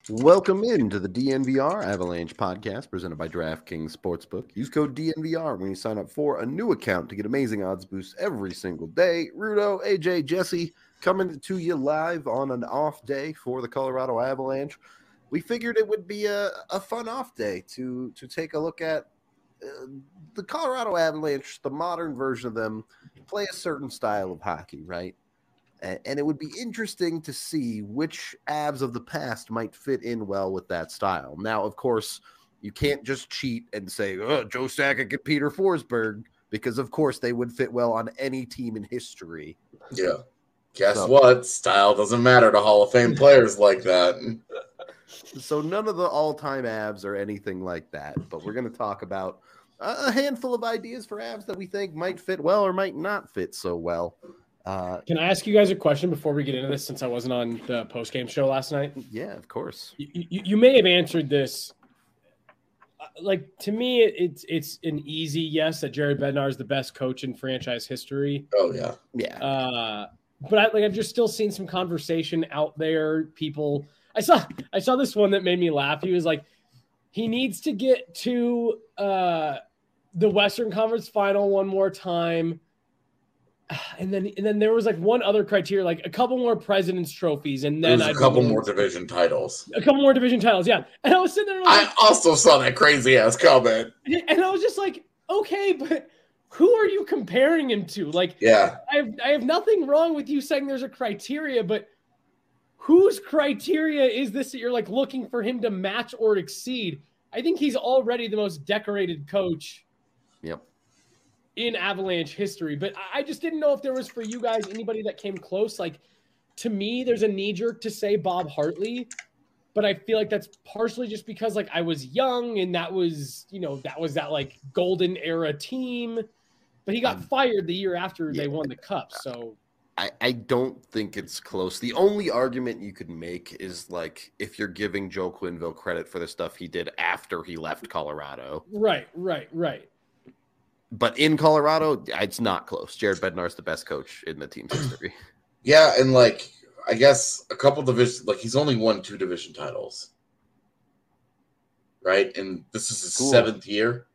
Welcome into the DNVR Avalanche podcast presented by DraftKings Sportsbook. Use code DNVR when you sign up for a new account to get amazing odds boosts every single day. Rudo, AJ, Jesse coming to you live on an off day for the Colorado Avalanche. We figured it would be a fun off day to take a look at the Colorado Avalanche, the modern version of them, play a certain style of hockey, right? And it would be interesting to see which Avs of the past might fit in well with that style. Now, of course, you can't just cheat and say, oh, Joe Sakic and Peter Forsberg, because, of course, they would fit well on any team in history. Yeah. Guess what? Style doesn't matter to Hall of Fame players like that. So none of the all-time Avs or anything like that. But we're going to talk about a handful of ideas for Avs that we think might fit well or might not fit so well. Can I ask you guys a question before we get into this, since I wasn't on the post-game show last night? Yeah, of course. You may have answered this. Like, to me, it's an easy yes that Jared Bednar is the best coach in franchise history. Oh, yeah. Yeah. But I've just still seen some conversation out there. People, I saw this one that made me laugh. He was like, he needs to get to the Western Conference Final one more time. And then there was like one other criteria, like a couple more President's trophies, and then a couple more division titles. A couple more division titles, yeah. And I was sitting there. I also saw that crazy ass comment, and I was just like, okay, but who are you comparing him to? Like, yeah, I have nothing wrong with you saying there's a criteria, but whose criteria is this that you're like looking for him to match or exceed? I think he's already the most decorated coach. Yep. In Avalanche history, but I just didn't know if there was for you guys anybody that came close. Like, to me, there's a knee jerk to say Bob Hartley, but I feel like that's partially just because like I was young and that was that like golden era team, but he got fired the year after they won the cup. So I don't think it's close. The only argument you could make is like if you're giving Joe Quenneville credit for the stuff he did after he left Colorado. Right. But in Colorado, it's not close. Jared Bednar's the best coach in the team's history. Yeah, and like I guess a couple divisions, like he's only won 2 division titles, right? And this is his 7th year.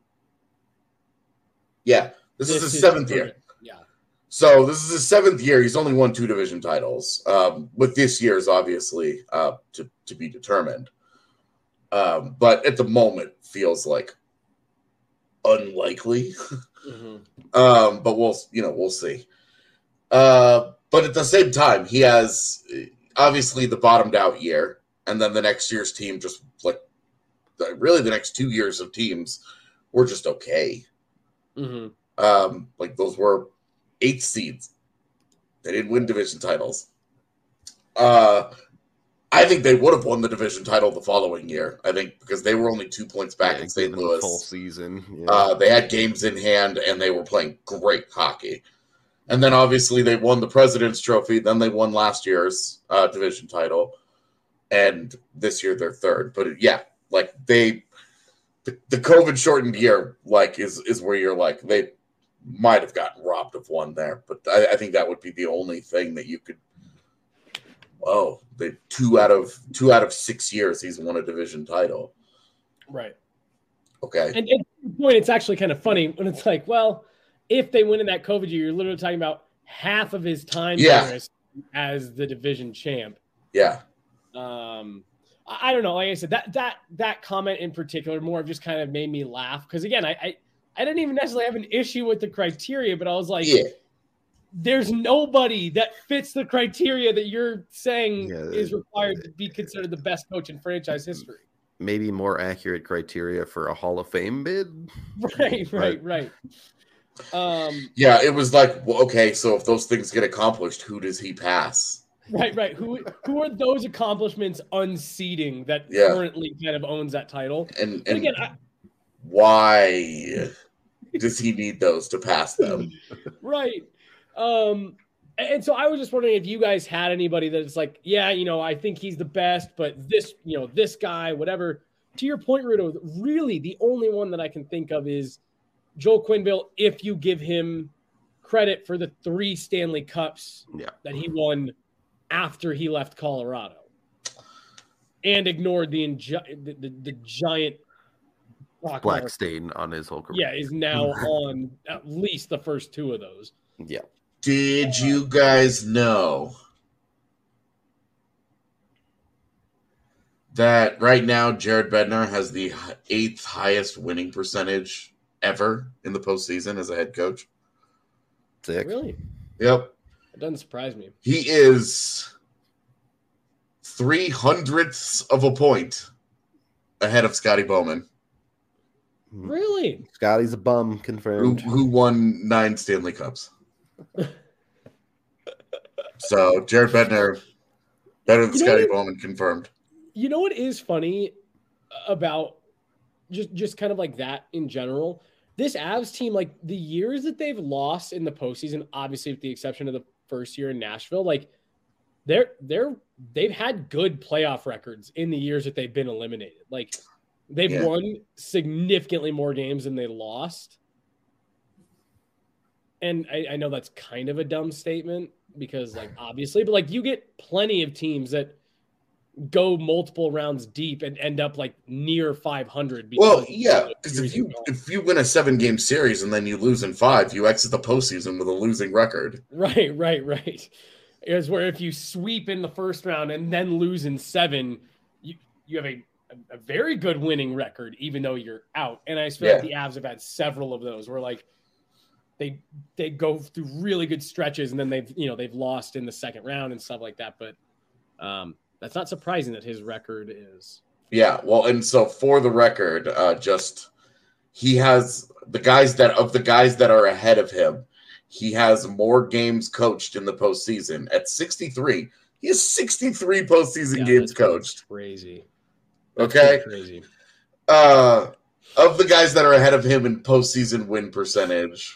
Yeah, this is his 7th year. Yeah. So this is his 7th year. He's only won 2 division titles. With this year's obviously to be determined. But at the moment feels like unlikely. But we'll see. But at the same time, he has obviously the bottomed out year, and then the next year's team just like really the next 2 years of teams were just okay. Like those were 8th seeds. They didn't win division titles. I think they would have won the division title the following year. I think because they were only 2 points back in St. Louis. Full season. Yeah. They had games in hand, and they were playing great hockey. And then obviously they won the President's Trophy. Then they won last year's division title, and this year they're 3rd. But yeah, like the COVID shortened year, like is where you're like they might have gotten robbed of one there. But I think that would be the only thing that you could. Oh, they 2 out of 6 years he's won a division title. Right. Okay. And at the point, it's actually kind of funny when it's like, well, if they win in that COVID year, you're literally talking about half of his time as the division champ. Yeah. I don't know. Like I said, that comment in particular more just kind of made me laugh because again, I didn't even necessarily have an issue with the criteria, but I was like, there's nobody that fits the criteria that you're saying is required to be considered the best coach in franchise history. Maybe more accurate criteria for a Hall of Fame bid. Right. Yeah, it was like, well, okay, so if those things get accomplished, who does he pass? Right. Who are those accomplishments unseating that currently kind of owns that title? And again, why does he need those to pass them? Right. And so I was just wondering if you guys had anybody that's like, I think he's the best, but this guy, whatever. To your point, Rudo, really the only one that I can think of is Joel Quenneville, if you give him credit for the 3 Stanley Cups that he won after he left Colorado. and ignored the giant Black stain on his whole career. Yeah, is now on at least the first two of those. Yeah. Did you guys know that right now Jared Bednar has the 8th highest winning percentage ever in the postseason as a head coach? Sick. Really? Yep. It doesn't surprise me. He is 0.03 of a point ahead of Scotty Bowman. Really? Scotty's a bum, confirmed. Who won 9 Stanley Cups. So Jared Bednar better than Scotty Bowman, confirmed. You know what is funny about just kind of like that in general? This Avs team, like the years that they've lost in the postseason, obviously with the exception of the first year in Nashville, like they've had good playoff records in the years that they've been eliminated. Like they've won significantly more games than they lost. And I know that's kind of a dumb statement because, like, obviously, but like you get plenty of teams that go multiple rounds deep and end up like near 500. Well, yeah, because if you win a 7-game series and then you lose in 5, you exit the postseason with a losing record. Right. Is where if you sweep in the first round and then lose in 7, you have a very good winning record, even though you're out. And I feel like the Avs have had several of those where like they go through really good stretches and then they've lost in the second round and stuff like that. But that's not surprising that his record is. Yeah, well, and so for the record, he has the guys that are ahead of him. He has more games coached in the postseason at 63. He has 63 postseason games coached. Crazy. That's crazy. Of the guys that are ahead of him in postseason win percentage,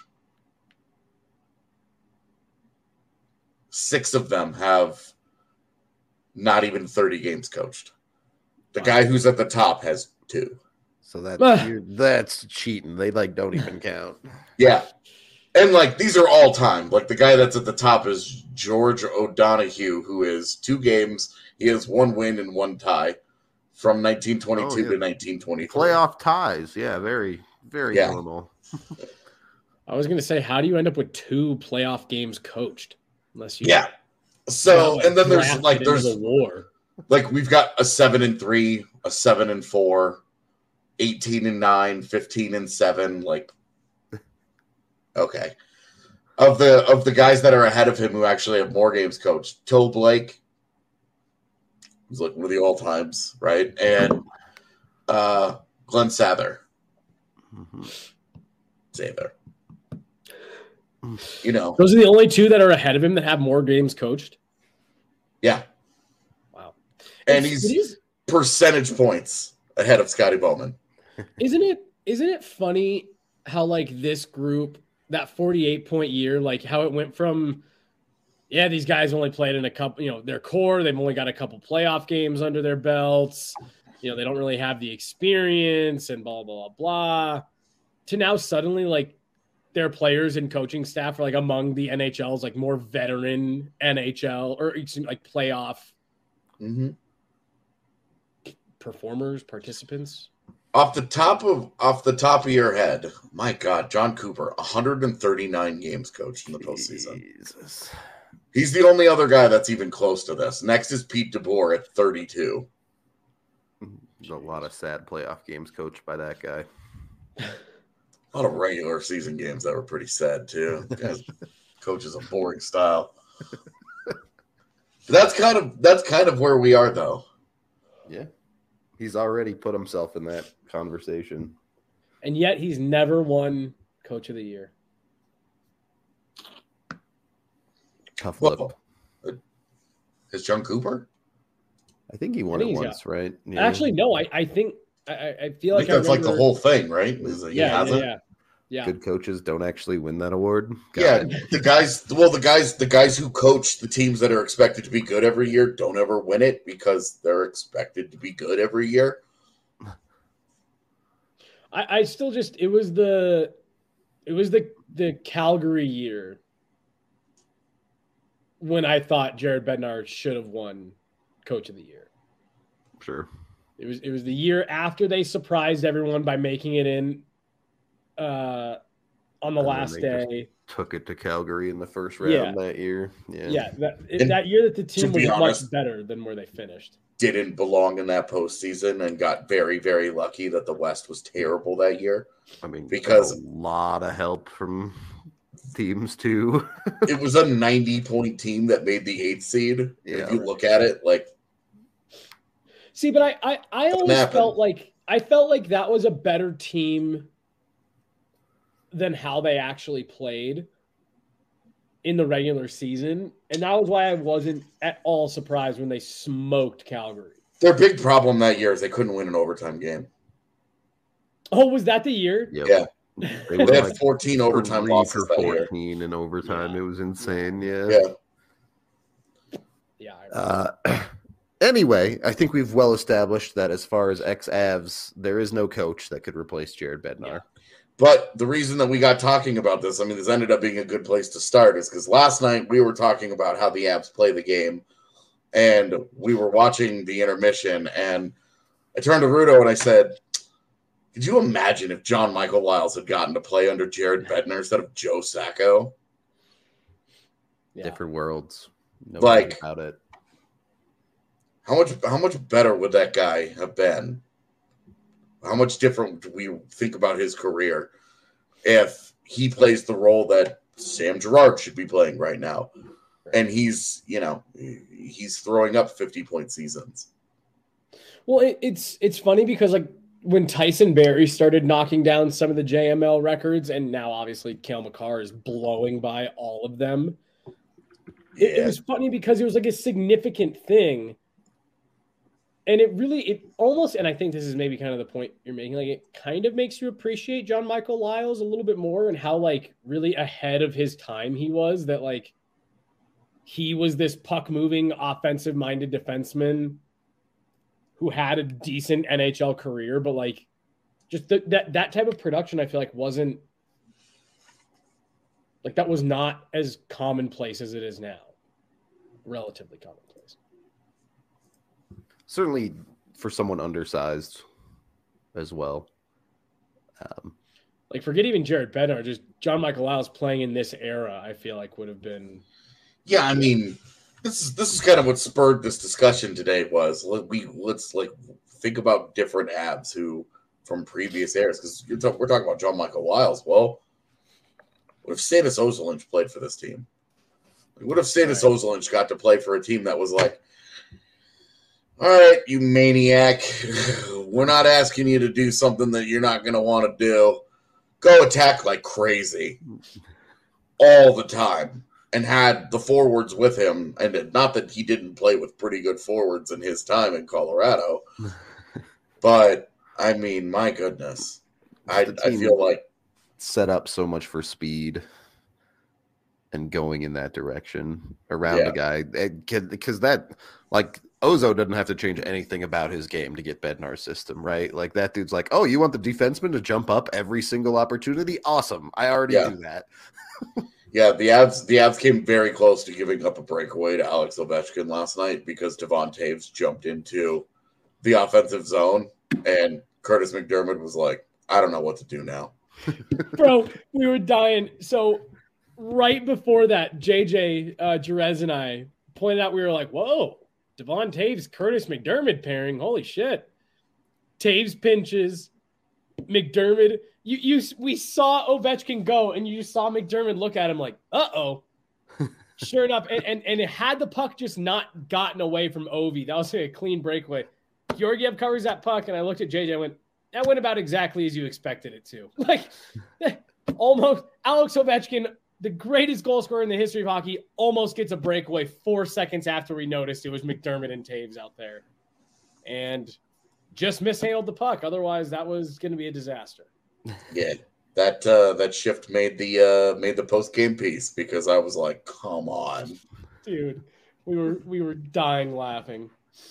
6 of them have not even 30 games coached. The guy who's at the top has 2. So that's cheating. They like don't even count. Yeah. And like these are all time. Like the guy that's at the top is George O'Donoghue, who is 2 games. He has 1 win and 1 tie from 1922 to 1923. Playoff ties. Yeah, very, very normal. I was going to say, how do you end up with 2 playoff games coached? Unless you So, and then there's a war. Like we've got a 7-3, a 7-4, 18-9, 15-7. Like, okay, of the guys that are ahead of him who actually have more games coached, Toe Blake, who's like one of the all times, right, and Glenn Sather, Sather. You know, those are the only 2 that are ahead of him that have more games coached. Yeah. Wow. And he's percentage points ahead of Scotty Bowman. Isn't it funny how like this group, that 48-point year, like how it went from, these guys only played in a couple, their core, they've only got a couple playoff games under their belts. They don't really have the experience and blah, blah, blah, to now suddenly like their players and coaching staff are like among the NHL's like more veteran NHL or like playoff participants. Off the top of your head, my God, John Cooper, 139 games coached in the postseason. Jesus. He's the only other guy that's even close to this. Next is Pete DeBoer at 32. There's a lot of sad playoff games coached by that guy. A lot of regular season games that were pretty sad too. The guy's coaches a boring style. That's kind of where we are though. Yeah. He's already put himself in that conversation. And yet he's never won Coach of the Year. Tough lip. Is John Cooper? I think he won it once, right? Yeah. Actually, no. I think I feel like that's like the whole thing, right? Yeah. Good coaches don't actually win that award. The guys who coach the teams that are expected to be good every year don't ever win it because they're expected to be good every year. I still just it was the Calgary year when I thought Jared Bednar should have won Coach of the Year. Sure. It was the year after they surprised everyone by making it in on the last day. Took it to Calgary in the first round that year. Yeah. That year that the team was much better than where they finished. Didn't belong in that postseason and got very, very lucky that the West was terrible that year. I mean, because a lot of help from teams too. It was a 90-point team that made the 8th seed. Yeah, if you look at it, like, see, but I always felt like that was a better team than how they actually played in the regular season. And that was why I wasn't at all surprised when they smoked Calgary. Their big problem that year is they couldn't win an overtime game. Oh, was that the year? Yep. Yeah. They had 14 overtime losses that year. 14 in overtime. Yeah. It was insane. Yeah. Anyway, I think we've well established that as far as ex-Avs, there is no coach that could replace Jared Bednar. Yeah. But the reason that we got talking about this, I mean, this ended up being a good place to start, is because last night we were talking about how the Avs play the game, and we were watching the intermission, and I turned to Rudo and I said, could you imagine if John Michael Liles had gotten to play under Jared Bednar instead of Joe Sacco? Yeah. Different worlds. No like about it. How much better would that guy have been? How much different do we think about his career if he plays the role that Sam Girard should be playing right now? And he's throwing up 50-point seasons. Well, it's funny because like when Tyson Barrie started knocking down some of the JML records, and now obviously Cale Makar is blowing by all of them. It was funny because it was like a significant thing. And it almost, and I think this is maybe kind of the point you're making, like it kind of makes you appreciate John Michael Liles a little bit more and how like really ahead of his time he was, that like he was this puck moving offensive minded defenseman who had a decent NHL career, but like just that type of production, I feel like wasn't like, that was not as commonplace as it is now. Relatively commonplace. Certainly for someone undersized as well. Like forget even Jared Bednar, just John Michael Liles playing in this era, I feel like would have been. Yeah, I mean, this is kind of what spurred this discussion today. Was let's think about different Avs who from previous eras, because we're talking about John Michael Liles. Well, what if Stanis Ozolinsh played for this team? What if Stanis Ozolinsh got to play for a team that was like, all right, you maniac, we're not asking you to do something that you're not going to want to do. Go attack like crazy all the time, and had the forwards with him. And not that he didn't play with pretty good forwards in his time in Colorado, but I mean, my goodness, I feel like set up so much for speed and going in that direction around the guy, because that, like, Ozo doesn't have to change anything about his game to get Bednar's system, right? Like that dude's like, oh, you want the defenseman to jump up every single opportunity? Awesome. I already do that. Yeah, the Avs came very close to giving up a breakaway to Alex Ovechkin last night because Devon Toews jumped into the offensive zone and Curtis McDermott was like, I don't know what to do now. Bro, we were dying. So right before that, JJ Jerez and I pointed out, we were like, whoa, Devon Toews, Curtis McDermott pairing. Holy shit. Toews pinches. McDermott. We saw Ovechkin go, and you just saw McDermott look at him like, uh-oh. Sure enough. And it had the puck just not gotten away from Ovi. That was a clean breakaway. Georgiev covers that puck, and I looked at JJ and went, that went about exactly as you expected it to. Like, almost Alex Ovechkin, the greatest goal scorer in the history of hockey, almost gets a breakaway 4 seconds after we noticed it was McDermott and Toews out there. And just mishandled the puck. Otherwise, that was going to be a disaster. Yeah, that shift made the post-game piece because I was like, come on. Dude, we were dying laughing.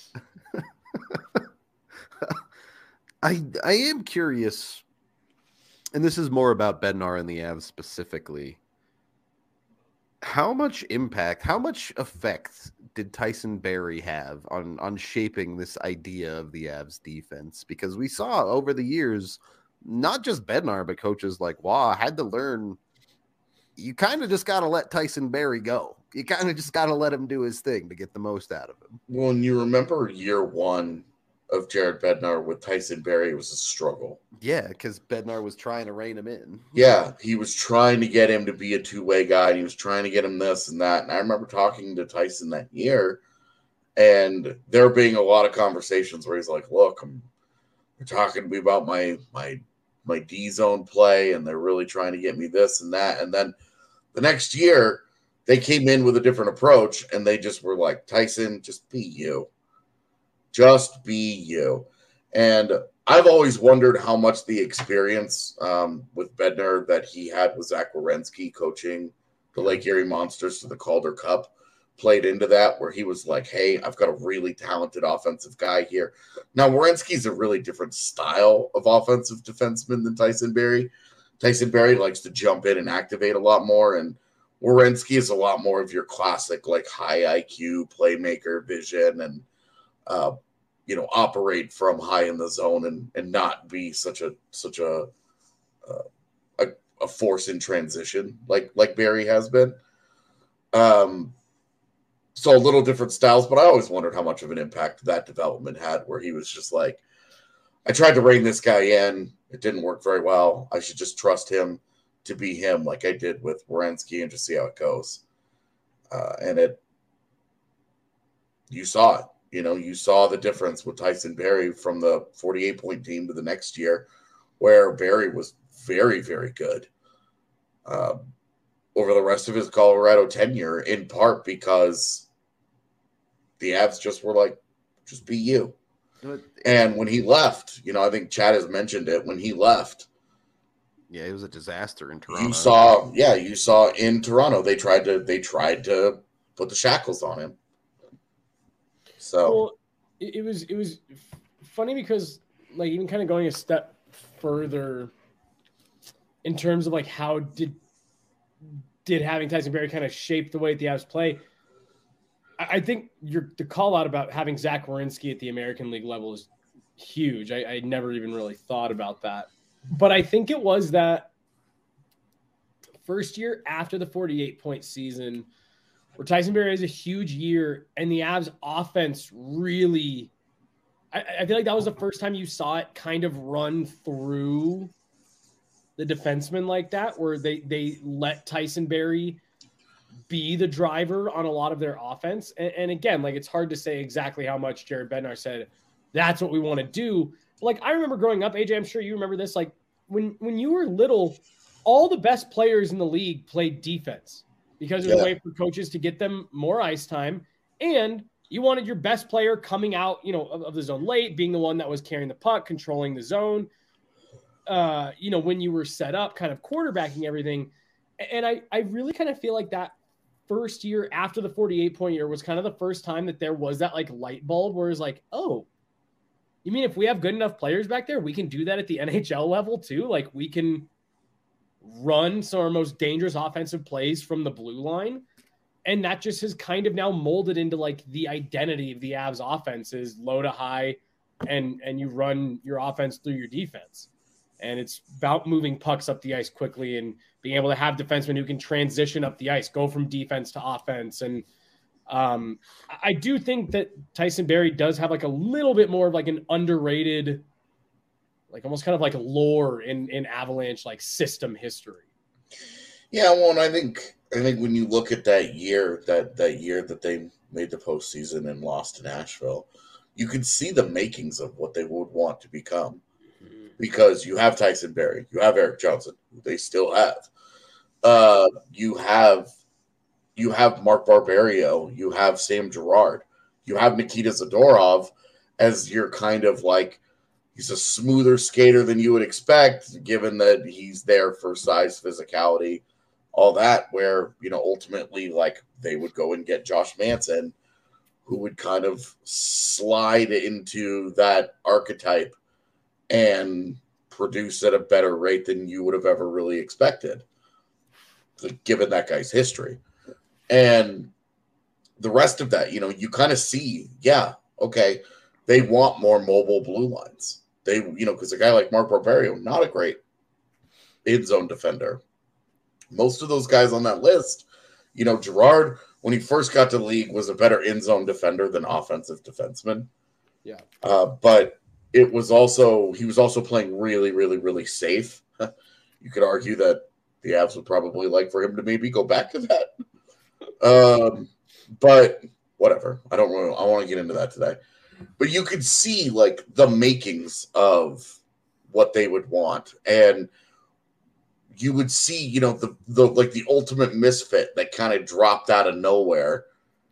I am curious, and this is more about Bednar and the Avs specifically. how much impact, how much effect did Tyson Berry have on shaping this idea of the Avs defense? Because we saw over the years, not just Bednar, but coaches like Waugh had to learn you kind of just got to let Tyson Berry go. You kind of just got to let him do his thing to get the most out of him. Well, and you remember year one of Jared Bednar with Tyson Berry, it was a struggle. Yeah, because Bednar was trying to rein him in. Yeah, he was trying to get him to be a two-way guy, and he was trying to get him this and that. And I remember talking to Tyson that year, and there being a lot of conversations where he's like, look, they're talking to me about my D-zone play, and they're really trying to get me this and that. And then the next year, they came in with a different approach, and they just were like, Tyson, just be you. Just be you. And I've always wondered how much the experience with Bednar that he had with Zach Werenski coaching the Lake Erie Monsters to the Calder Cup played into that, where he was like, hey, I've got a really talented offensive guy here. Now, Werenski's a really different style of offensive defenseman than Tyson Berry. Tyson Berry likes to jump in and activate a lot more, and Werenski is a lot more of your classic, like, high IQ playmaker vision and operate from high in the zone and not be such a force in transition like Barry has been. So a little different styles, but I always wondered how much of an impact that development had, where he was just like, I tried to rein this guy in. It didn't work very well. I should just trust him to be him like I did with Werenski and just see how it goes. You saw it. You saw the difference with Tyson Berry from the 48-point team to the next year, where Berry was very, very good over the rest of his Colorado tenure, in part because the Avs just were like, just be you. And when he left, I think Chad has mentioned it, when he left, yeah, it was a disaster in Toronto. You saw in Toronto, they tried to put the shackles on him. So well, it was funny because, like, even kind of going a step further in terms of like how did having Tyson Berry kind of shape the way the Avs play. I think the call out about having Zach Werenski at the American League level is huge. I never even really thought about that, but I think it was that first year after the 48-point season where Tyson Berry has a huge year and the Avs offense really, I feel like that was the first time you saw it kind of run through the defenseman like that, where they let Tyson Berry be the driver on a lot of their offense. And again, like, it's hard to say exactly how much Jared Bednar said, that's what we want to do. But like, I remember growing up, AJ, I'm sure you remember this, like when you were little, all the best players in the league played defense because it was a way for coaches to get them more ice time. And you wanted your best player coming out, of the zone late, being the one that was carrying the puck, controlling the zone, when you were set up, kind of quarterbacking everything. And I really kind of feel like that first year after the 48-point year was kind of the first time that there was that like light bulb where it's like, oh, you mean if we have good enough players back there, we can do that at the NHL level too? Like, we can run some of our most dangerous offensive plays from the blue line. And that just has kind of now molded into like the identity of the Avs offense is low to high, and you run your offense through your defense. And it's about moving pucks up the ice quickly and being able to have defensemen who can transition up the ice, go from defense to offense. And I do think that Tyson Berry does have like a little bit more of like an underrated, like almost kind of like lore in Avalanche, like system history. Yeah, well, and I think when you look at that year that they made the postseason and lost to Nashville, you can see the makings of what they would want to become. Because you have Tyson Berry, you have Erik Johnson, who they still have. You have Mark Barberio, you have Sam Girard, you have Nikita Zadorov as your kind of like, he's a smoother skater than you would expect, given that he's there for size, physicality, all that, where, ultimately, like, they would go and get Josh Manson, who would kind of slide into that archetype and produce at a better rate than you would have ever really expected, given that guy's history. And the rest of that, you kind of see, yeah, okay, they want more mobile blue lines. They, because a guy like Mark Barberio, not a great in zone defender. Most of those guys on that list, Gerard, when he first got to the league, was a better in zone defender than offensive defenseman. Yeah. But he was also playing really, really, really safe. You could argue that the Avs would probably like for him to maybe go back to that. But whatever. I want to get into that today. But you could see like the makings of what they would want. And you would see, the ultimate misfit that kind of dropped out of nowhere.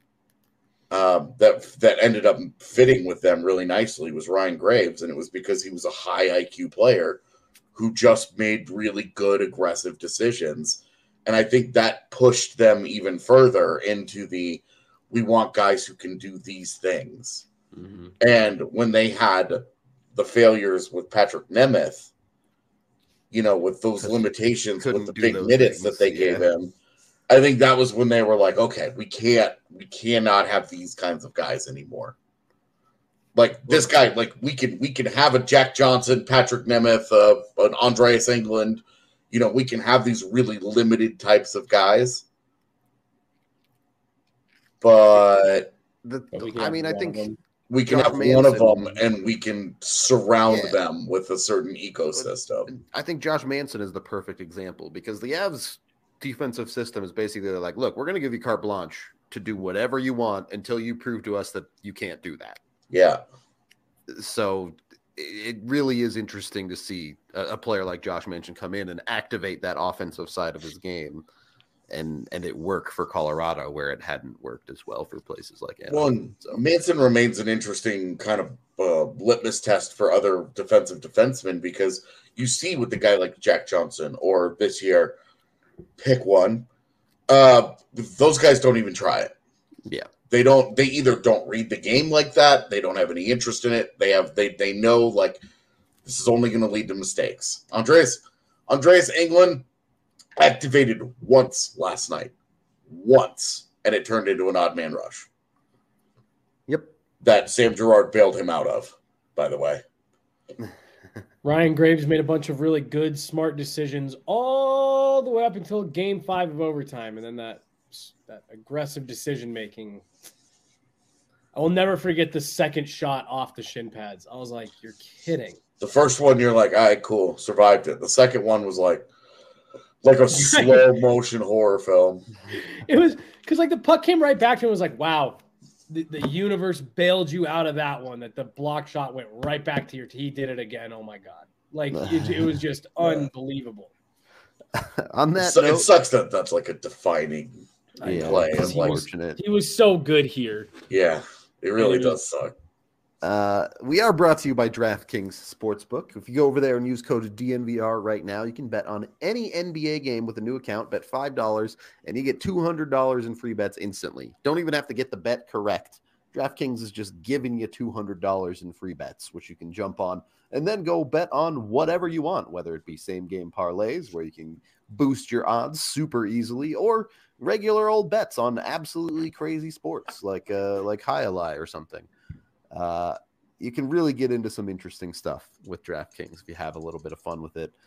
That ended up fitting with them really nicely was Ryan Graves, and it was because he was a high IQ player who just made really good aggressive decisions, and I think that pushed them even further into we want guys who can do these things. Mm-hmm. And when they had the failures with Patrick Nemeth, with those limitations, with the big minutes that they gave him, I think that was when they were like, okay, we cannot have these kinds of guys anymore. Like this guy, like we can have a Jack Johnson, Patrick Nemeth, an Andreas Englund. We can have these really limited types of guys. But I think we can have one of them, and we can surround them with a certain ecosystem. I think Josh Manson is the perfect example because the Avs defensive system is basically like, look, we're going to give you carte blanche to do whatever you want until you prove to us that you can't do that. Yeah. So it really is interesting to see a player like Josh Manson come in and activate that offensive side of his game and it work for Colorado where it hadn't worked as well for places like Anaheim. Manson remains an interesting kind of litmus test for other defensive defensemen because you see with the guy like Jack Johnson or this year, pick one. Those guys don't even try it. Yeah. They either don't read the game like that, they don't have any interest in it. They know like this is only going to lead to mistakes. Andreas Englund activated once last night. Once, and it turned into an odd man rush. Yep. That Sam Girard bailed him out of, by the way. Ryan Graves made a bunch of really good, smart decisions all the way up until Game 5 of overtime, and then that aggressive decision-making. I will never forget the second shot off the shin pads. I was like, you're kidding. The first one, you're like, all right, cool, survived it. The second one was like a slow-motion horror film. It was because, like, the puck came right back to him and was like, wow, the universe bailed you out of that one, that the block shot went right back to he did it again. Oh, my God. Like, it was just unbelievable. On that note, it sucks that that's like a defining play. He was so good here. Yeah, it really does suck. We are brought to you by DraftKings Sportsbook. If you go over there and use code DNVR right now, you can bet on any NBA game with a new account. Bet $5 and you get $200 in free bets instantly. Don't even have to get the bet correct. DraftKings is just giving you $200 in free bets, which you can jump on and then go bet on whatever you want, whether it be same game parlays where you can boost your odds super easily, or regular old bets on absolutely crazy sports like Highlight or something. You can really get into some interesting stuff with DraftKings if you have a little bit of fun with it.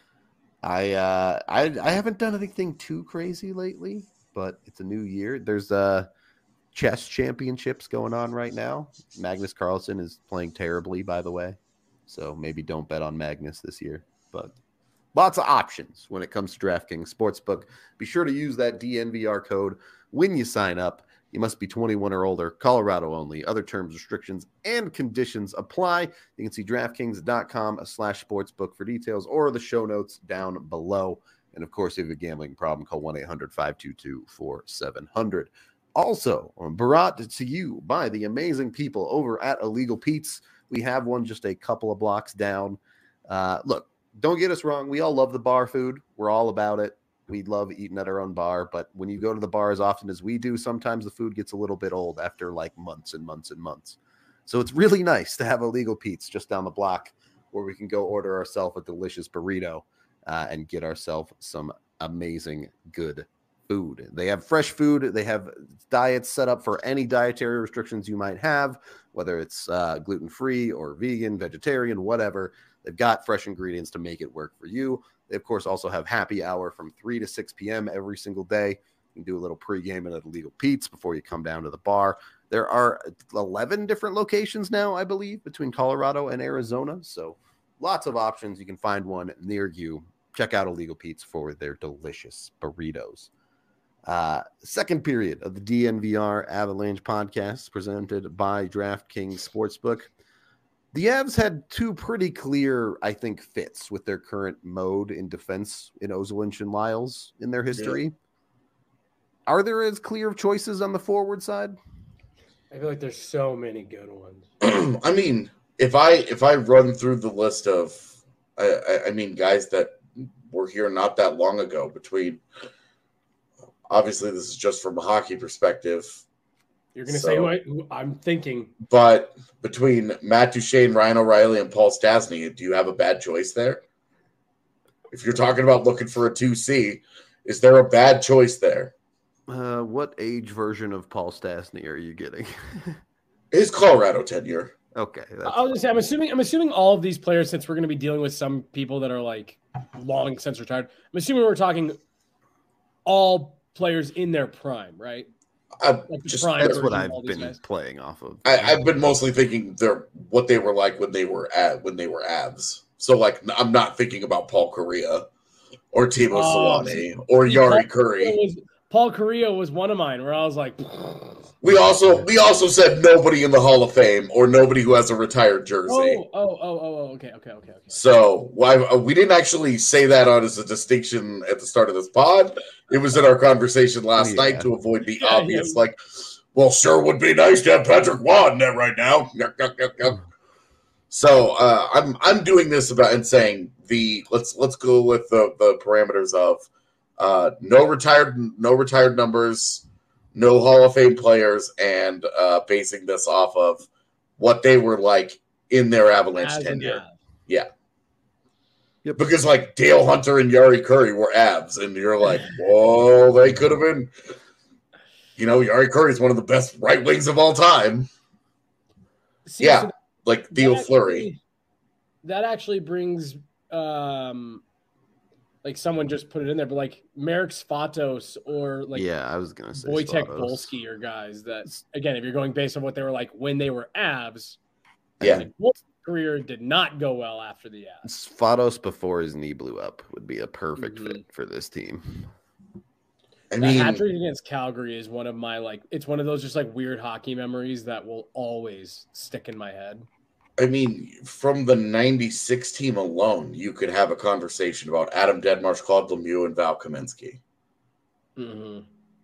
I haven't done anything too crazy lately, but it's a new year. There's chess championships going on right now. Magnus Carlsen is playing terribly, by the way, so maybe don't bet on Magnus this year. But lots of options when it comes to DraftKings Sportsbook. Be sure to use that DNVR code when you sign up. You must be 21 or older, Colorado only. Other terms, restrictions, and conditions apply. You can see DraftKings.com/sportsbook for details or the show notes down below. And, of course, if you have a gambling problem, call 1-800-522-4700. Also, brought to you by the amazing people over at Illegal Pete's. We have one just a couple of blocks down. Look, don't get us wrong. We all love the bar food. We're all about it. We love eating at our own bar, but when you go to the bar as often as we do, sometimes the food gets a little bit old after like months and months and months. So it's really nice to have Illegal Pete's just down the block where we can go order ourselves a delicious burrito and get ourselves some amazing good food. They have fresh food. They have diets set up for any dietary restrictions you might have, whether it's gluten-free or vegan, vegetarian, whatever. They've got fresh ingredients to make it work for you. They, of course, also have happy hour from 3 to 6 p.m. every single day. You can do a little pregame at Illegal Pete's before you come down to the bar. There are 11 different locations now, I believe, between Colorado and Arizona. So lots of options. You can find one near you. Check out Illegal Pete's for their delicious burritos. Second period of the DNVR Avalanche podcast presented by DraftKings Sportsbook. The Avs had two pretty clear, I think, fits with their current mode in defense in Ozolinsh and Lyles in their history. Yeah. Are there as clear of choices on the forward side? I feel like there's so many good ones. I mean, if I run through the list of, I mean, guys that were here not that long ago, between, obviously this is just from a hockey perspective. You're going to say who I'm thinking. But between Matt Duchene, Ryan O'Reilly, and Paul Stastny, do you have a bad choice there? If you're talking about looking for a 2C, is there a bad choice there? What age version of Paul Stastny are you getting? His Colorado tenure. Okay. I was gonna say, I'm assuming all of these players, since we're going to be dealing with some people that are like long since retired, I'm assuming we're talking all players in their prime, right? That's what I've been playing off of. I've been mostly thinking what they were like when they were Avs. So like, I'm not thinking about Paul Correa or Timo Solani or Yari Curry. Paul Correa was one of mine where I was like, we also said nobody in the Hall of Fame or nobody who has a retired jersey. Okay. So we didn't actually say that as a distinction at the start of this pod. It was in our conversation last night to avoid the obvious, like, well, sure would be nice to have Patrick Waugh in there right now. So I'm doing this and saying let's go with the parameters of no retired numbers, no Hall of Fame players, and basing this off of what they were like in their Avalanche tenure. Yeah. Yep. Because like Dale Hunter and Yari Curry were Avs, and you're like, whoa, they could have been. You know, Yari Curry is one of the best right wings of all time. See, yeah, so like Theo Fleury. That actually brings, like someone just put it in there, but like Marek Svatos or like I was gonna say Wojtek Volsky or guys that, again, if you're going based on what they were like when they were Avs, career did not go well after the Avs. Svatos before his knee blew up would be a perfect fit for this team. I mean, that hat trick against Calgary is one of my it's one of those just like weird hockey memories that will always stick in my head. I mean, from the 96 team alone, you could have a conversation about Adam Deadmarsh, Claude Lemieux, and Val Kaminsky. Mm-hmm.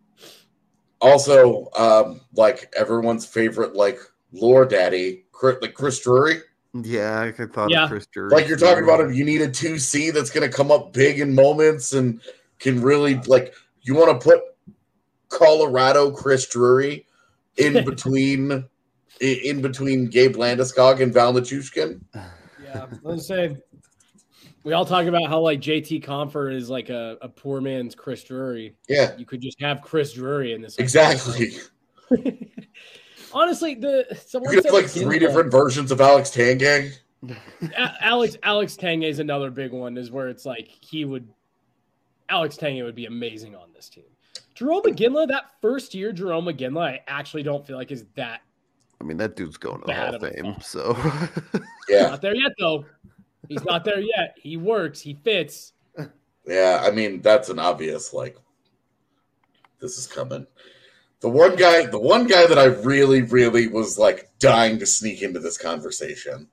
Also, like everyone's favorite, like lore daddy, like Chris Drury. Yeah, I thought of Chris Drury. Like you're talking about him, you need a 2C that's going to come up big in moments and can really like. You want to put Colorado Chris Drury in between. In between Gabe Landeskog and Val Nichushkin? Yeah, let's say we all talk about how like JT Compher is like a poor man's Chris Drury. Yeah, you could just have Chris Drury in this. Exactly. Honestly, you could have like 3 different versions of Alex Tanguay. Alex Tanguay is another big one. Is where it's like Alex Tanguay would be amazing on this team. Jarome Iginla, that first year, Jarome Iginla, I actually don't feel like is that. I mean, that dude's going to the Hall of Fame, so. Yeah. Not there yet, though. He's not there yet. He works. He fits. Yeah, I mean, that's an obvious, like, this is coming. The one guy that I really, really was, like, dying to sneak into this conversation.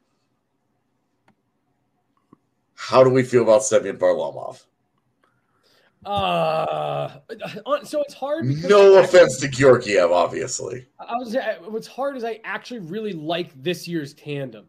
How do we feel about Semyon Varlamov? So it's hard. No offense to Georgiev, obviously. What's hard is I actually really like this year's tandem.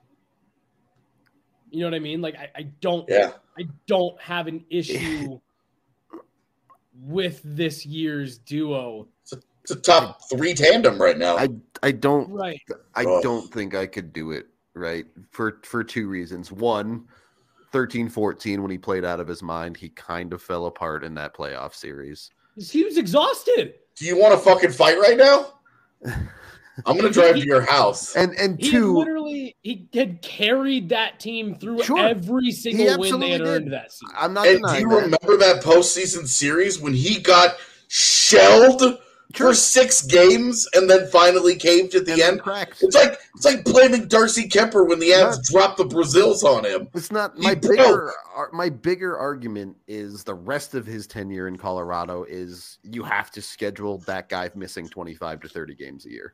You know what I mean? Like I don't have an issue with this year's duo. It's a top 3 tandem right now. I don't think I could do it right for 2 reasons. One, 13-14, when he played out of his mind, he kind of fell apart in that playoff series. He was exhausted. Do you want to fucking fight right now? I'm gonna drive to your house. And He two, he had carried that team through Sure. every single win they had absolutely earned did. that season. I'm not And do denying you that. remember that postseason series when he got shelled Sure. for 6 games and then finally caved at the And then end? cracks. It's like blaming Darcy Kemper when the Avs dropped the Brazils on him. It's not He my broke. my bigger argument is the rest of his tenure in Colorado is you have to schedule that guy missing 25 to 30 games a year.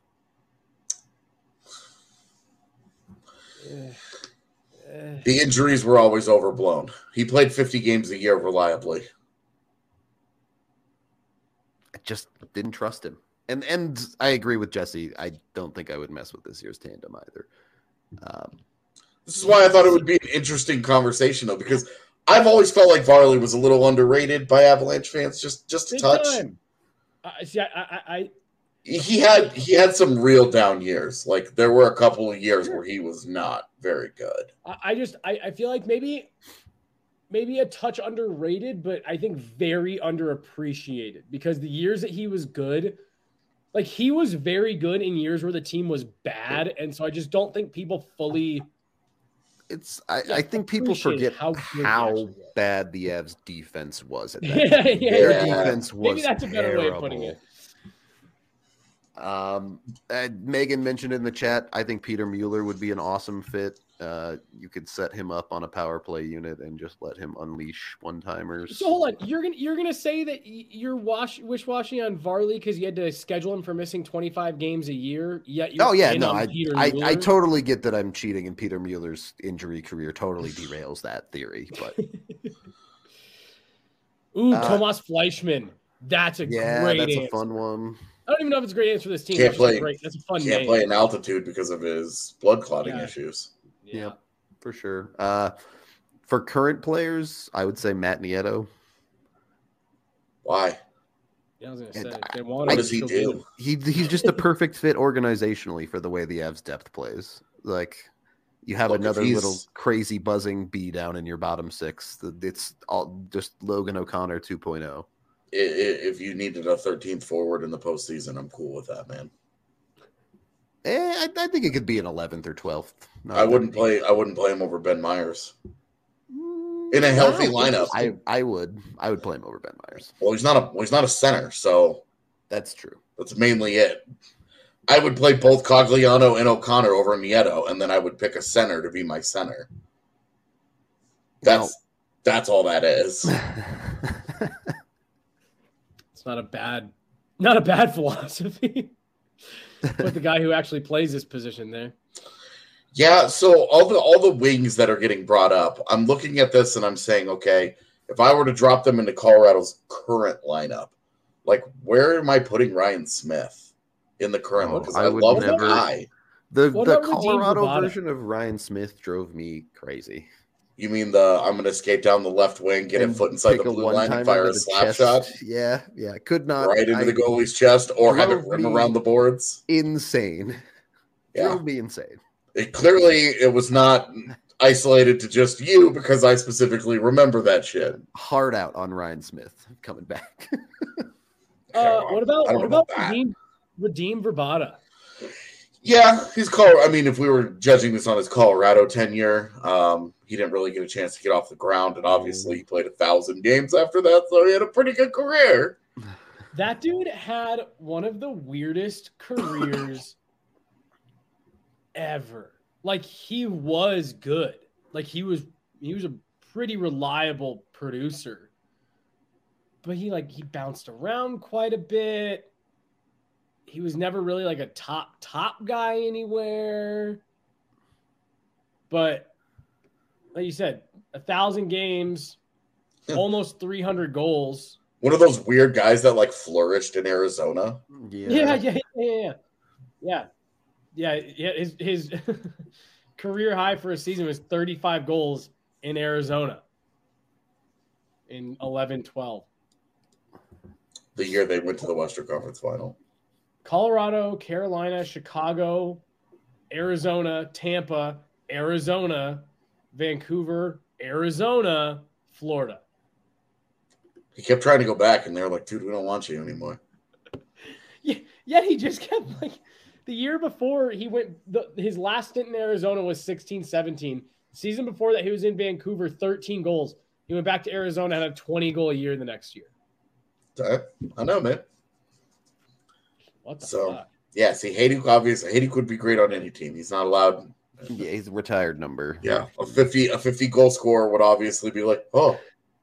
The injuries were always overblown. He played 50 games a year reliably. I just didn't trust him. And I agree with Jesse. I don't think I would mess with this year's tandem either. This is why I thought it would be an interesting conversation, though, because I've always felt like Varley was a little underrated by Avalanche fans, just a Big touch. time. He had some real down years. Like there were a couple of years where he was not very good. I feel like maybe a touch underrated, but I think very underappreciated because the years that he was good, like he was very good in years where the team was bad, and so I just don't think people fully. I think people forget how how bad the Avs defense was at that Yeah, time. yeah, Their yeah. defense was Maybe that's a better way of putting it. Megan mentioned in the chat, I think Peter Mueller would be an awesome fit. You could set him up on a power play unit and just let him unleash one-timers. So hold on, you're gonna say that you're wish-washy on Varley because you had to schedule him for missing 25 games a year. Yet you're I totally get that I'm cheating, and Peter Mueller's injury career totally derails that theory. But Tomas Fleischmann, that's a great that's answer. a fun one. I don't even know if it's a great answer for this team. That's a fun name. Can't play in altitude because of his blood clotting issues. Yeah, for sure. For current players, I would say Matt Nieto. Why? Yeah, I was gonna say. What does he do? He's just a perfect fit organizationally for the way the Avs depth plays. Like you have another little crazy buzzing bee down in your bottom six. It's all just Logan O'Connor 2.0. If you needed a 13th forward in the postseason, I'm cool with that, man. I think it could be an 11th or 12th. I wouldn't play him over Ben Myers in a healthy lineup. I would play him over Ben Myers. Well, he's not a center, so that's true. That's mainly it. I would play both Cogliano and O'Connor over Nieto, and then I would pick a center to be my center. That's all that is. It's not a bad philosophy. But the guy who actually plays this position there. Yeah, so all the wings that are getting brought up, I'm looking at this and I'm saying, okay, if I were to drop them into Colorado's current lineup, like where am I putting Ryan Smith in the current one? Because I love the guy. The Colorado version of Ryan Smith drove me crazy. You mean I'm going to skate down the left wing, get a foot inside the blue line, and fire a slap shot? Yeah. Could not. Right into the goalie's chest or have it rim around the boards? Insane. Yeah. Drove me insane. It was not isolated to just you because I specifically remember that shit. Hard out on Ryan Smith coming back. What about Radim Vrbata? Yeah, if we were judging this on his Colorado tenure, he didn't really get a chance to get off the ground, and obviously he played 1,000 games after that, so he had a pretty good career. That dude had one of the weirdest careers ever. Like he was good. Like he was a pretty reliable producer. But he bounced around quite a bit. He was never really like a top guy anywhere. But like you said, 1,000 games, almost 300 goals. One of those weird guys that flourished in Arizona. Yeah. His career high for a season was 35 goals in Arizona in 11-12. The year they went to the Western Conference Final. Colorado, Carolina, Chicago, Arizona, Tampa, Arizona, Vancouver, Arizona, Florida. He kept trying to go back, and they were like, dude, we don't want you anymore. Yeah, yet he just kept like the year before he went. His last stint in Arizona was 16-17. The season before that, he was in Vancouver, 13 goals. He went back to Arizona and had a 20-goal a year the next year. I know, man. What the So, fuck? yeah, see, Hejduk would be great on any team. He's not allowed. Yeah, he's a retired number. Yeah, a 50 goal scorer would obviously be like, oh.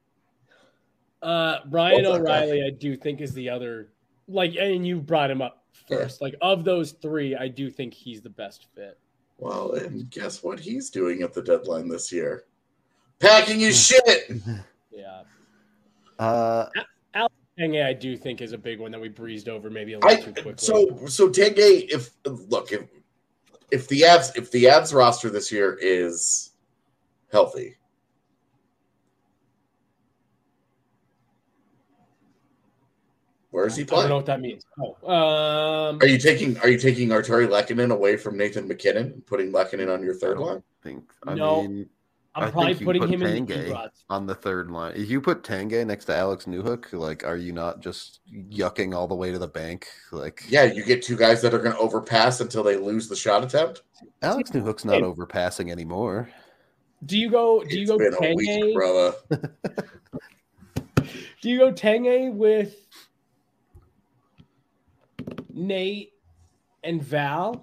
Brian Love that guy. O'Reilly, I do think is the other. Like, and you brought him up first. Like, of those three, I do think he's the best fit. Well, and guess what he's doing at the deadline this year? Packing his shit. Yeah. Uh, Tanguay, I do think is a big one that we breezed over maybe a little too quickly. So Tanguay, if the Avs roster this year is healthy, where is he I don't know playing? what that means. Are you taking Arturi Lehkonen away from Nathan McKinnon and putting Lehkonen on your third line? No. I'm probably think you putting put him in Tanguay the rods. on the third line. If you put Tanguay next to Alex Newhook, like, are you not just yucking all the way to the bank? Like, Yeah, you get two guys that are going to overpass until they lose the shot attempt. Alex Newhook's not overpassing anymore. Do you go It's been a week, Tanguay? brother. Do you go Tanguay with Nate and Val?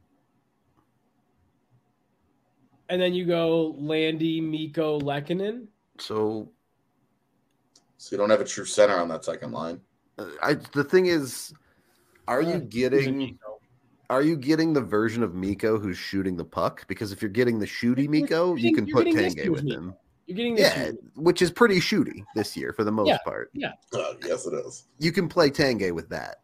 And then you go Landy, Mikko, Lehkonen? So you don't have a true center on that second line. the thing is, are you getting the version of Mikko who's shooting the puck? Because if you're getting the shooty Mikko, you can put Tanguay with him. You're getting this. Which is pretty shooty this year for the most part. Yeah. Yes, it is. You can play Tanguay with that.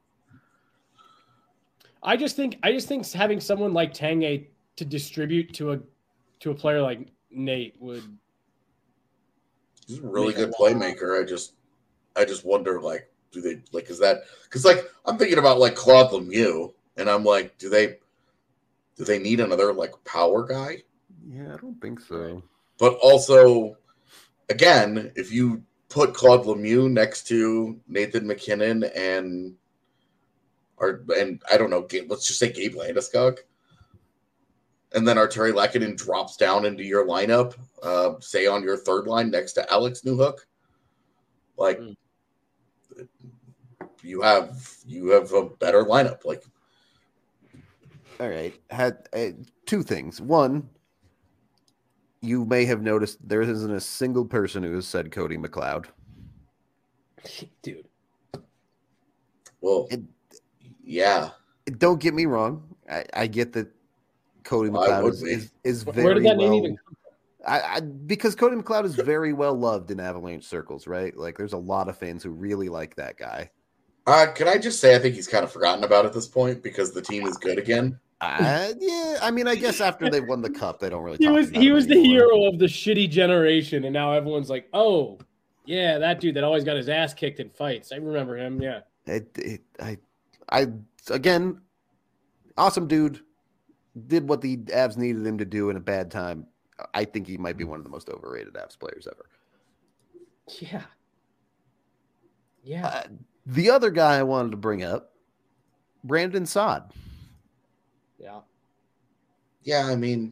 I just think having someone like Tanguay to distribute to a player like Nate would. He's a really good playmaker. I just wonder, like, do they like? Is that because like I'm thinking about like Claude Lemieux, and I'm like, do they need another like power guy? Yeah, I don't think so. But also, again, if you put Claude Lemieux next to Nathan McKinnon and I don't know, let's just say Gabe Landeskog, and then Arturi Lehkonen drops down into your lineup, say on your third line next to Alex Newhook, like you have a better lineup. Like, all right, had two things. One, you may have noticed there isn't a single person who has said Cody McLeod. Dude. Well, yeah. Don't get me wrong. I get that Cody McLeod is very Where did that name well. even come from? Because Cody McLeod is very well loved in Avalanche circles, right? Like, there's a lot of fans who really like that guy. Can I just say I think he's kind of forgotten about at this point because the team is good again. Yeah, I mean, I guess after they won the cup, they don't really. He was the hero of the shitty generation, and now everyone's like, "Oh, yeah, that dude that always got his ass kicked in fights. I remember him." Yeah. I again, awesome dude. Did what the Avs needed him to do in a bad time. I think he might be one of the most overrated Avs players ever. Yeah. Yeah. The other guy I wanted to bring up, Brandon Saad. Yeah. Yeah, I mean,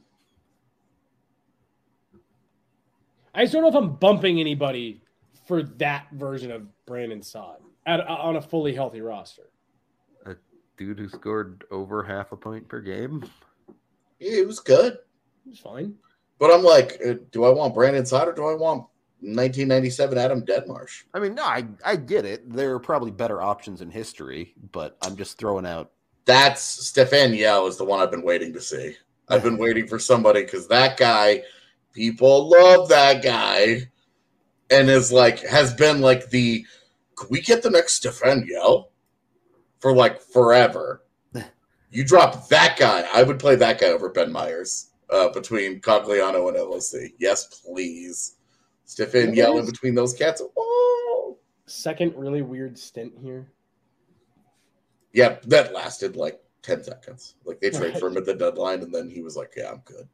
I just don't know if I'm bumping anybody for that version of Brandon Saad on a fully healthy roster. A dude who scored over half a point per game. yeah, it was good. It was fine. But I'm like, do I want Brandon Saad or do I want 1997 Adam Deadmarsh? I mean, no, I get it. There are probably better options in history, but I'm just throwing out. That's Stefan Yell is the one I've been waiting to see. I've been waiting for somebody because that guy, people love that guy, and has been like can we get the next Stefan Yell for like forever? You drop that guy, I would play that guy over Ben Myers between Cogliano and LOC. Yes, please. Stefan Yell in between those cats. Oh. Second really weird stint here. Yeah, that lasted like 10 seconds. Like they traded for him at the deadline, and then he was like, yeah, I'm good.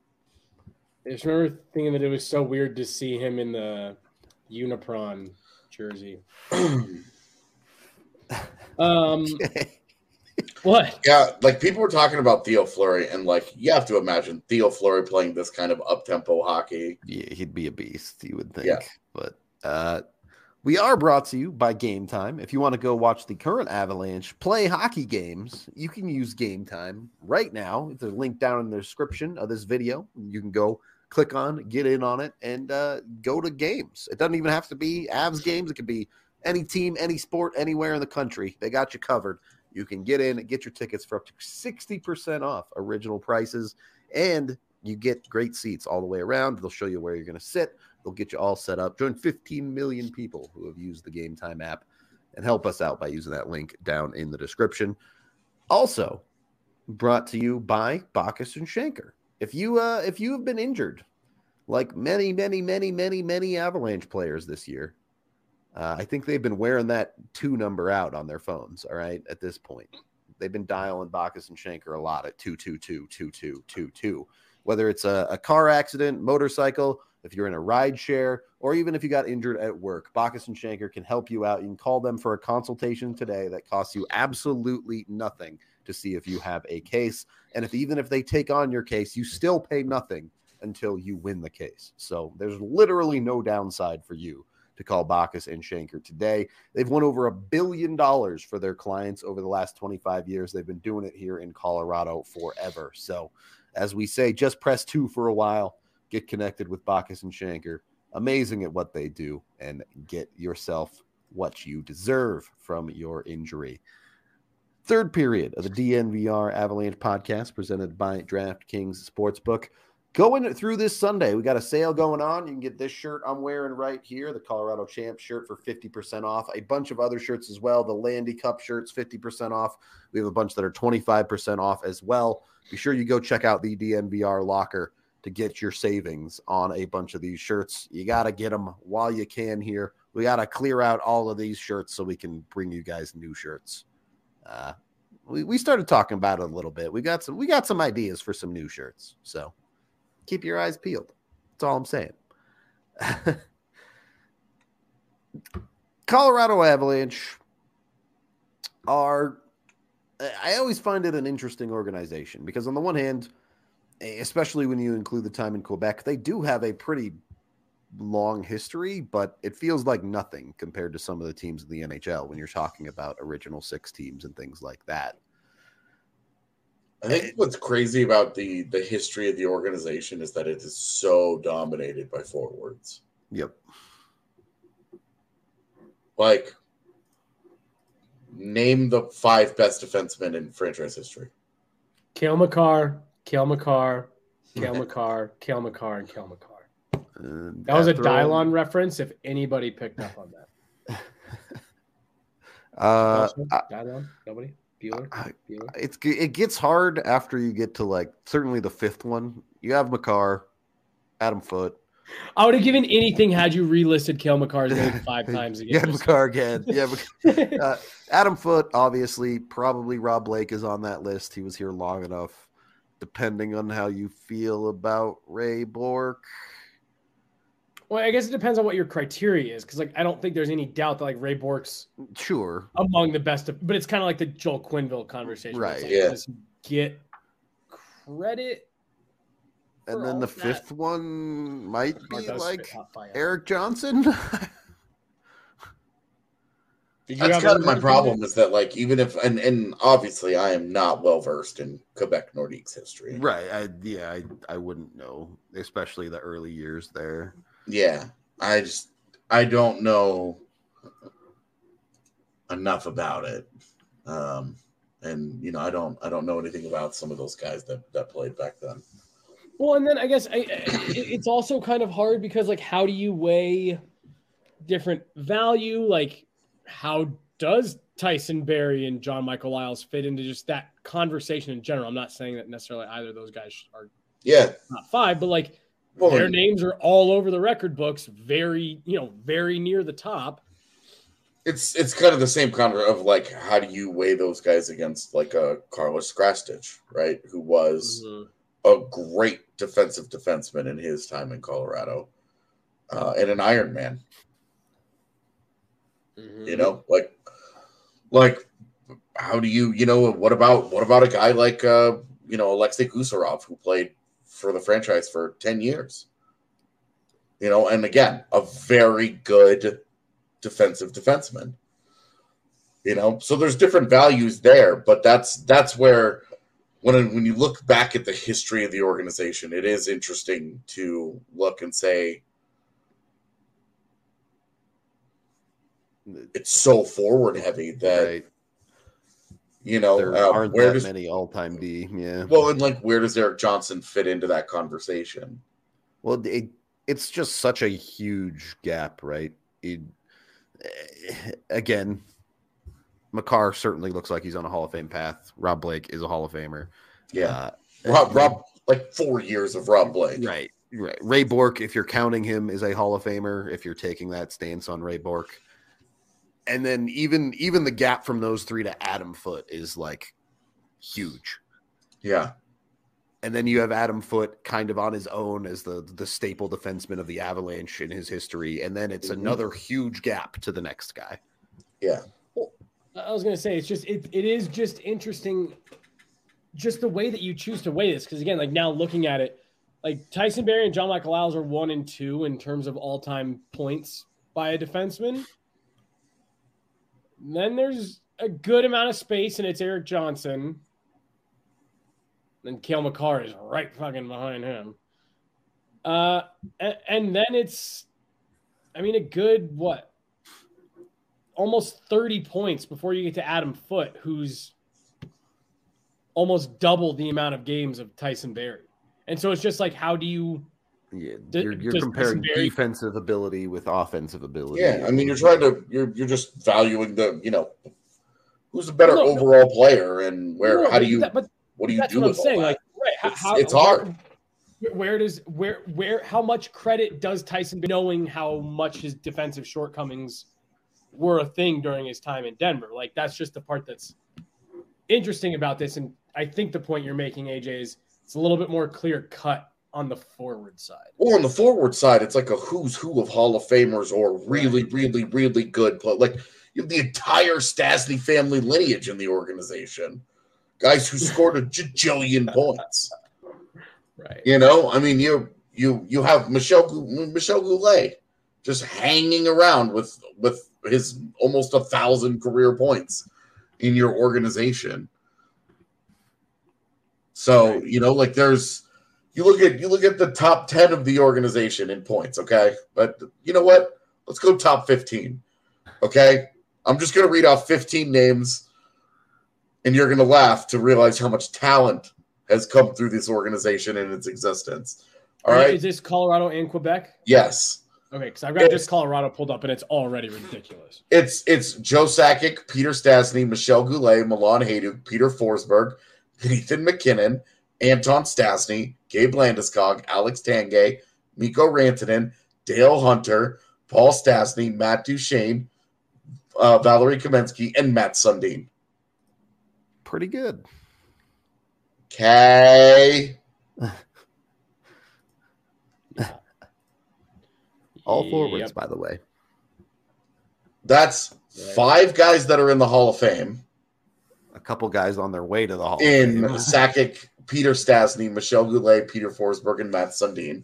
I just remember thinking that it was so weird to see him in the Unipron jersey. What? Yeah, like people were talking about Theo Fleury, and like you have to imagine Theo Fleury playing this kind of up-tempo hockey. Yeah, he'd be a beast, you would think. Yeah. But we are brought to you by Game Time. If you want to go watch the current Avalanche play hockey games, you can use Game Time right now. There's a link down in the description of this video. You can go click on, get in on it, and go to games. It doesn't even have to be Avs games. It could be any team, any sport, anywhere in the country. They got you covered. You can get in and get your tickets for up to 60% off original prices, and you get great seats all the way around. They'll show you where you're going to sit. They'll get you all set up. Join 15 million people who have used the Game Time app, and help us out by using that link down in the description. Also, brought to you by Bacchus and Schenker. If you have been injured, like many Avalanche players this year, I think they've been wearing that 2 number out on their phones. All right, at this point, they've been dialing Bacchus and Schenker a lot at 222-2222. Whether it's a car accident, motorcycle, if you're in a ride share, or even if you got injured at work, Bacchus and Schenker can help you out. You can call them for a consultation today that costs you absolutely nothing to see if you have a case. And even if they take on your case, you still pay nothing until you win the case. So there's literally no downside for you to call Bacchus and Schenker today. They've won over $1 billion for their clients over the last 25 years. They've been doing it here in Colorado forever. So as we say, just press 2 for a while. Get connected with Bacchus and Schenker. Amazing at what they do, and get yourself what you deserve from your injury. Third period of the DNVR Avalanche podcast presented by DraftKings Sportsbook. Going through this Sunday, we got a sale going on. You can get this shirt I'm wearing right here, the Colorado Champs shirt, for 50% off. A bunch of other shirts as well. The Landy Cup shirts, 50% off. We have a bunch that are 25% off as well. Be sure you go check out the DNVR locker to get your savings on a bunch of these shirts. You got to get them while you can here. We got to clear out all of these shirts so we can bring you guys new shirts. We started talking about it a little bit. We got some ideas for some new shirts. So keep your eyes peeled. That's all I'm saying. Colorado Avalanche I always find it an interesting organization because on the one hand, especially when you include the time in Quebec, they do have a pretty long history, but it feels like nothing compared to some of the teams in the NHL when you're talking about original 6 teams and things like that. I think what's crazy about the history of the organization is that it is so dominated by forwards. Yep. Like, name the 5 best defensemen in franchise history. Cale Makar, Cale Makar, Cale Makar, Cale Makar, and Cale Makar. That was a Dylon reference, if anybody picked up on that. Dylon? Nobody? Bueller? It gets hard after you get to, like, certainly the 5th one. You have Makar, Adam Foote. I would have given anything had you relisted Cale Makar's name 5 times again. Yeah, Makar again. Yeah, Adam Foote, obviously. Probably Rob Blake is on that list. He was here long enough. Depending on how you feel about Ray Bourque. Well, I guess it depends on what your criteria is, because like I don't think there's any doubt that like Ray Bourque's among the best, but it's kind of like the Joel Quenneville conversation, right? Like, yeah. Does he get credit? And then the 5th one might be like Eric Johnson. That's kind of my problem is that, like, even if, and obviously I am not well versed in Quebec Nordique's history. Right. I wouldn't know, especially the early years there. Yeah. I don't know enough about it. And you know, I don't know anything about some of those guys that played back then. Well, and then I guess it's also kind of hard because, like, how do you weigh different value? Like, how does Tyson Barrie and John Michael Lyles fit into just that conversation in general? I'm not saying that necessarily either of those guys are not 5, but like their names are all over the record books, very near the top. It's kind of the same kind of like, how do you weigh those guys against like a Carlos Krastich, right? Who was a great defensive defenseman in his time in Colorado, and an Iron Man. You know, like how do you what about a guy like Alexei Gusarov, who played for the franchise for 10 years? And again, a very good defensive defenseman. So there's different values there, but that's where when you look back at the history of the organization, it is interesting to look and say it's so forward heavy that right. There aren't that many all-time D. Yeah. Well, and where does Erik Johnson fit into that conversation? Well, it's just such a huge gap, right? Again, Makar certainly looks like he's on a Hall of Fame path. Rob Blake is a Hall of Famer. Yeah. Rob, 4 years of Rob Blake. Right. Ray Bourque, if you're counting him, is a Hall of Famer, if you're taking that stance on Ray Bourque. And then even the gap from those three to Adam Foote is huge. Yeah. And then you have Adam Foote kind of on his own as the staple defenseman of the Avalanche in his history. And then it's another huge gap to the next guy. Yeah. Well, I was going to say, it is just interesting, just the way that you choose to weigh this. Because again, now looking at it, Tyson Barrie and John Michael Isles are 1 and 2 in terms of all-time points by a defenseman. Then there's a good amount of space, and it's Erik Johnson. And Cale Makar is right fucking behind him. And then it's, a good, almost 30 points before you get to Adam Foote, who's almost double the amount of games of Tyson Barrie. And so it's just how do you... Yeah, you're comparing defensive ability with offensive ability. Yeah, you're just valuing the, who's a better overall player and what do you do with all that? It's hard. How much credit does Tyson, knowing how much his defensive shortcomings were a thing during his time in Denver? That's just the part that's interesting about this. And I think the point you're making, AJ, is it's a little bit more clear cut on the forward side. Well, on the forward side, it's a who's who of Hall of Famers or really, really, really good play. You have the entire Stastny family lineage in the organization. Guys who scored a jillion points. Right. You have Michel Goulet just hanging around with his almost 1,000 career points in your organization. So, right. There's you look at the top 10 of the organization in points, okay? But you know what? Let's go top 15. Okay? I'm just going to read off 15 names, and you're going to laugh to realize how much talent has come through this organization in its existence. All right? Is this Colorado and Quebec? Yes. Okay, because I've got just Colorado pulled up, and it's already ridiculous. It's Joe Sakic, Peter Stastny, Michel Goulet, Milan Hajduk, Peter Forsberg, Nathan MacKinnon, Anton Stastny, Gabe Landeskog, Alex Tanguay, Mikko Rantanen, Dale Hunter, Paul Stastny, Matt Duchene, Valerie Kamensky, and Matt Sundin. Pretty good. Okay. All forwards, by the way. That's 5 guys that are in the Hall of Fame. A couple guys on their way to the Hall of Fame. In Sakic, Peter Stastny, Michel Goulet, Peter Forsberg, and Matt Sundin.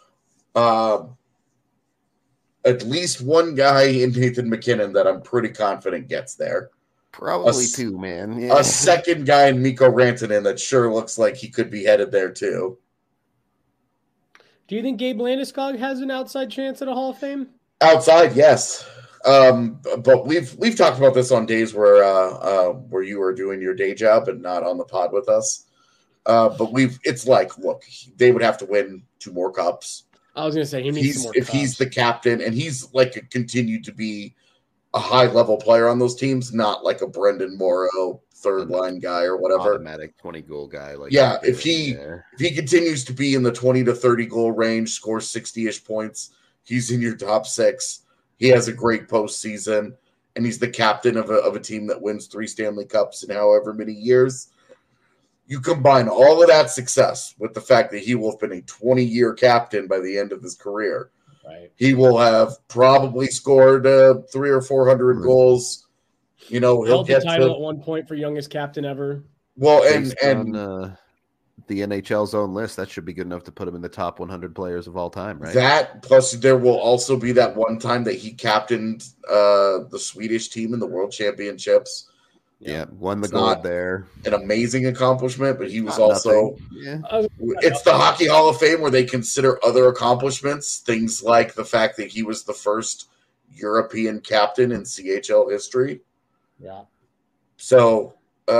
At least one guy in Nathan MacKinnon that I'm pretty confident gets there. Probably 2, man. Yeah. A second guy in Mikko Rantanen that sure looks like he could be headed there too. Do you think Gabe Landeskog has an outside chance at a Hall of Fame? Outside, yes. But we've talked about this on days where you were doing your day job and not on the pod with us. But look, they would have to win 2 more cups. I was going to say he needs some more cups. If he's the captain and he's continued to be a high level player on those teams, not like a Brendan Morrow third line guy or whatever. Automatic 20 goal guy. If he continues to be in the 20 to 30 goal range, scores 60-ish points, he's in your top 6. He has a great postseason, and he's the captain of a team that wins 3 Stanley Cups in however many years. You combine all of that success with the fact that he will have been a 20-year captain by the end of his career. Right. He will have probably scored 300 or 400 goals. You know, he'll held the get title at one point for youngest captain ever. Well, Based and on the NHL's own list, that should be good enough to put him in the top 100 players of all time, right? that plus there will also be that one time that he captained the Swedish team in the World Championships. Yeah, won the It's gold not there. An amazing accomplishment, but he was Not also nothing. Yeah. it's the Hockey Hall of Fame where they consider other accomplishments, things like the fact that he was the first European captain in CHL history. Yeah. So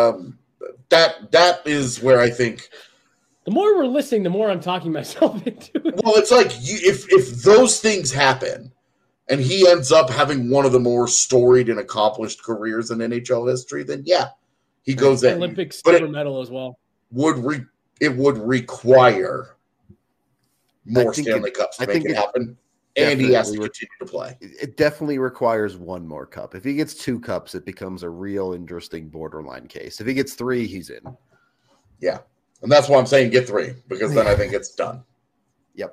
that is where I think the more we're listening, the more I'm talking myself into it. Well, it's like if those things happen and he ends up having one of the more storied and accomplished careers in NHL history, then yeah, he goes in. Olympic silver medal as well. It would require more Stanley Cups to make it happen. And he has to continue to play. It definitely requires one more cup. If he gets 2 cups, it becomes a real interesting borderline case. If he gets 3, he's in. Yeah. And that's why I'm saying get 3, because then I think it's done. Yep.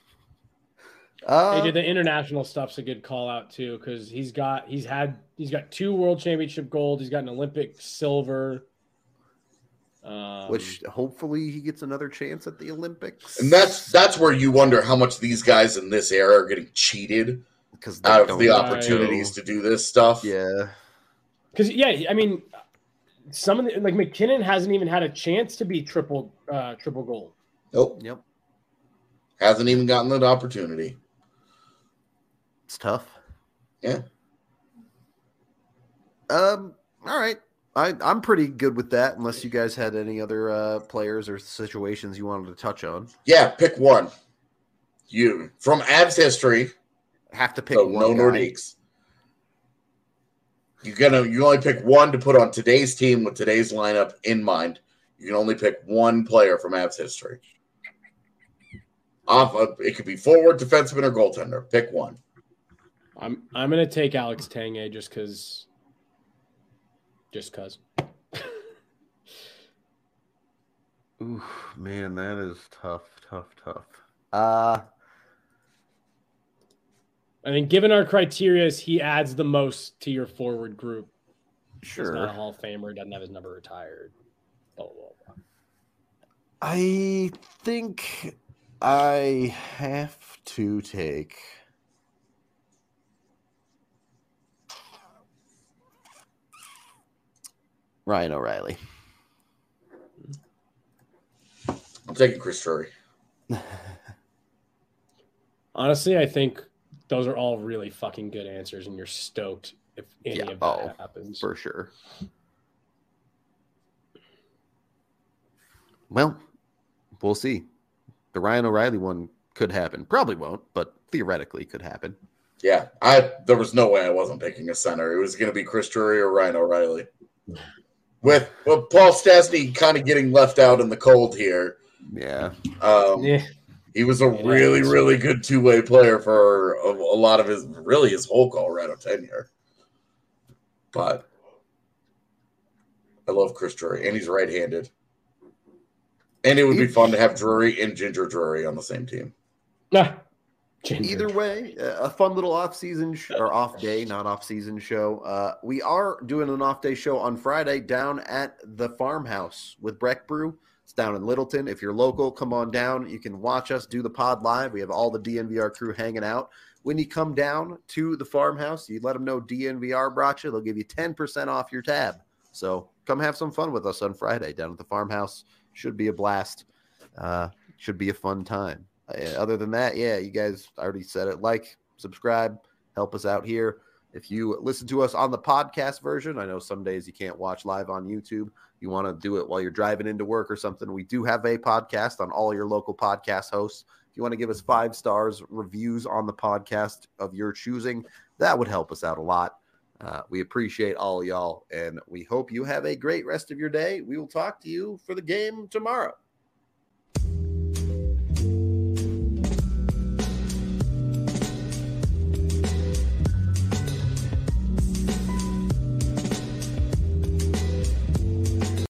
The international stuff's a good call out too, because he's got 2 world championship gold. He's got an Olympic silver. Which hopefully he gets another chance at the Olympics. And that's where you wonder how much these guys in this era are getting cheated because out of the opportunities to do this stuff. Yeah. Because I mean, some of the like McKinnon hasn't even had a chance to be triple gold. Nope. Yep. Hasn't even gotten that opportunity. It's tough. Yeah. All right. I'm pretty good with that, unless you guys had any other players or situations you wanted to touch on. Yeah, pick one. You from Avs history have to pick one. No Nordiques. You only pick one to put on today's team with today's lineup in mind. You can only pick one player from Avs history. It could be forward, defenseman, or goaltender. Pick one. I'm gonna take Alex Tanguay just because. Ooh, man, that is tough. I mean, given our criteria, he adds the most to your forward group. Sure. He's not a Hall of Famer. Doesn't have his number retired. Blah, blah, blah. I think I have to take... Ryan O'Reilly. I'm taking Chris Drury. Honestly, I think those are all really fucking good answers, and you're stoked if any of that happens. For sure. Well, we'll see. The Ryan O'Reilly one could happen. Probably won't, but theoretically could happen. Yeah, there was no way I wasn't picking a center. It was going to be Chris Drury or Ryan O'Reilly. With Paul Stastny kind of getting left out in the cold here. Yeah. He was a really, really good two-way player for a lot of his whole Colorado tenure. But I love Chris Drury, and he's right-handed. And it would be fun to have Drury and Ginger Drury on the same team. Either way, a fun little off-season or off-day, not off-season show. We are doing an off-day show on Friday down at the Farmhouse with Breck Brew. It's down in Littleton. If you're local, come on down. You can watch us do the pod live. We have all the DNVR crew hanging out. When you come down to the Farmhouse, you let them know DNVR brought you. They'll give you 10% off your tab. So come have some fun with us on Friday down at the Farmhouse. Should be a blast. Should be a fun time. Other than that, yeah, you guys already said it. Like, subscribe, help us out here. If you listen to us on the podcast version, I know some days you can't watch live on YouTube. You want to do it while you're driving into work or something. We do have a podcast on all your local podcast hosts. If you want to give us 5 stars, reviews on the podcast of your choosing, that would help us out a lot. We appreciate all y'all, and we hope you have a great rest of your day. We will talk to you for the game tomorrow.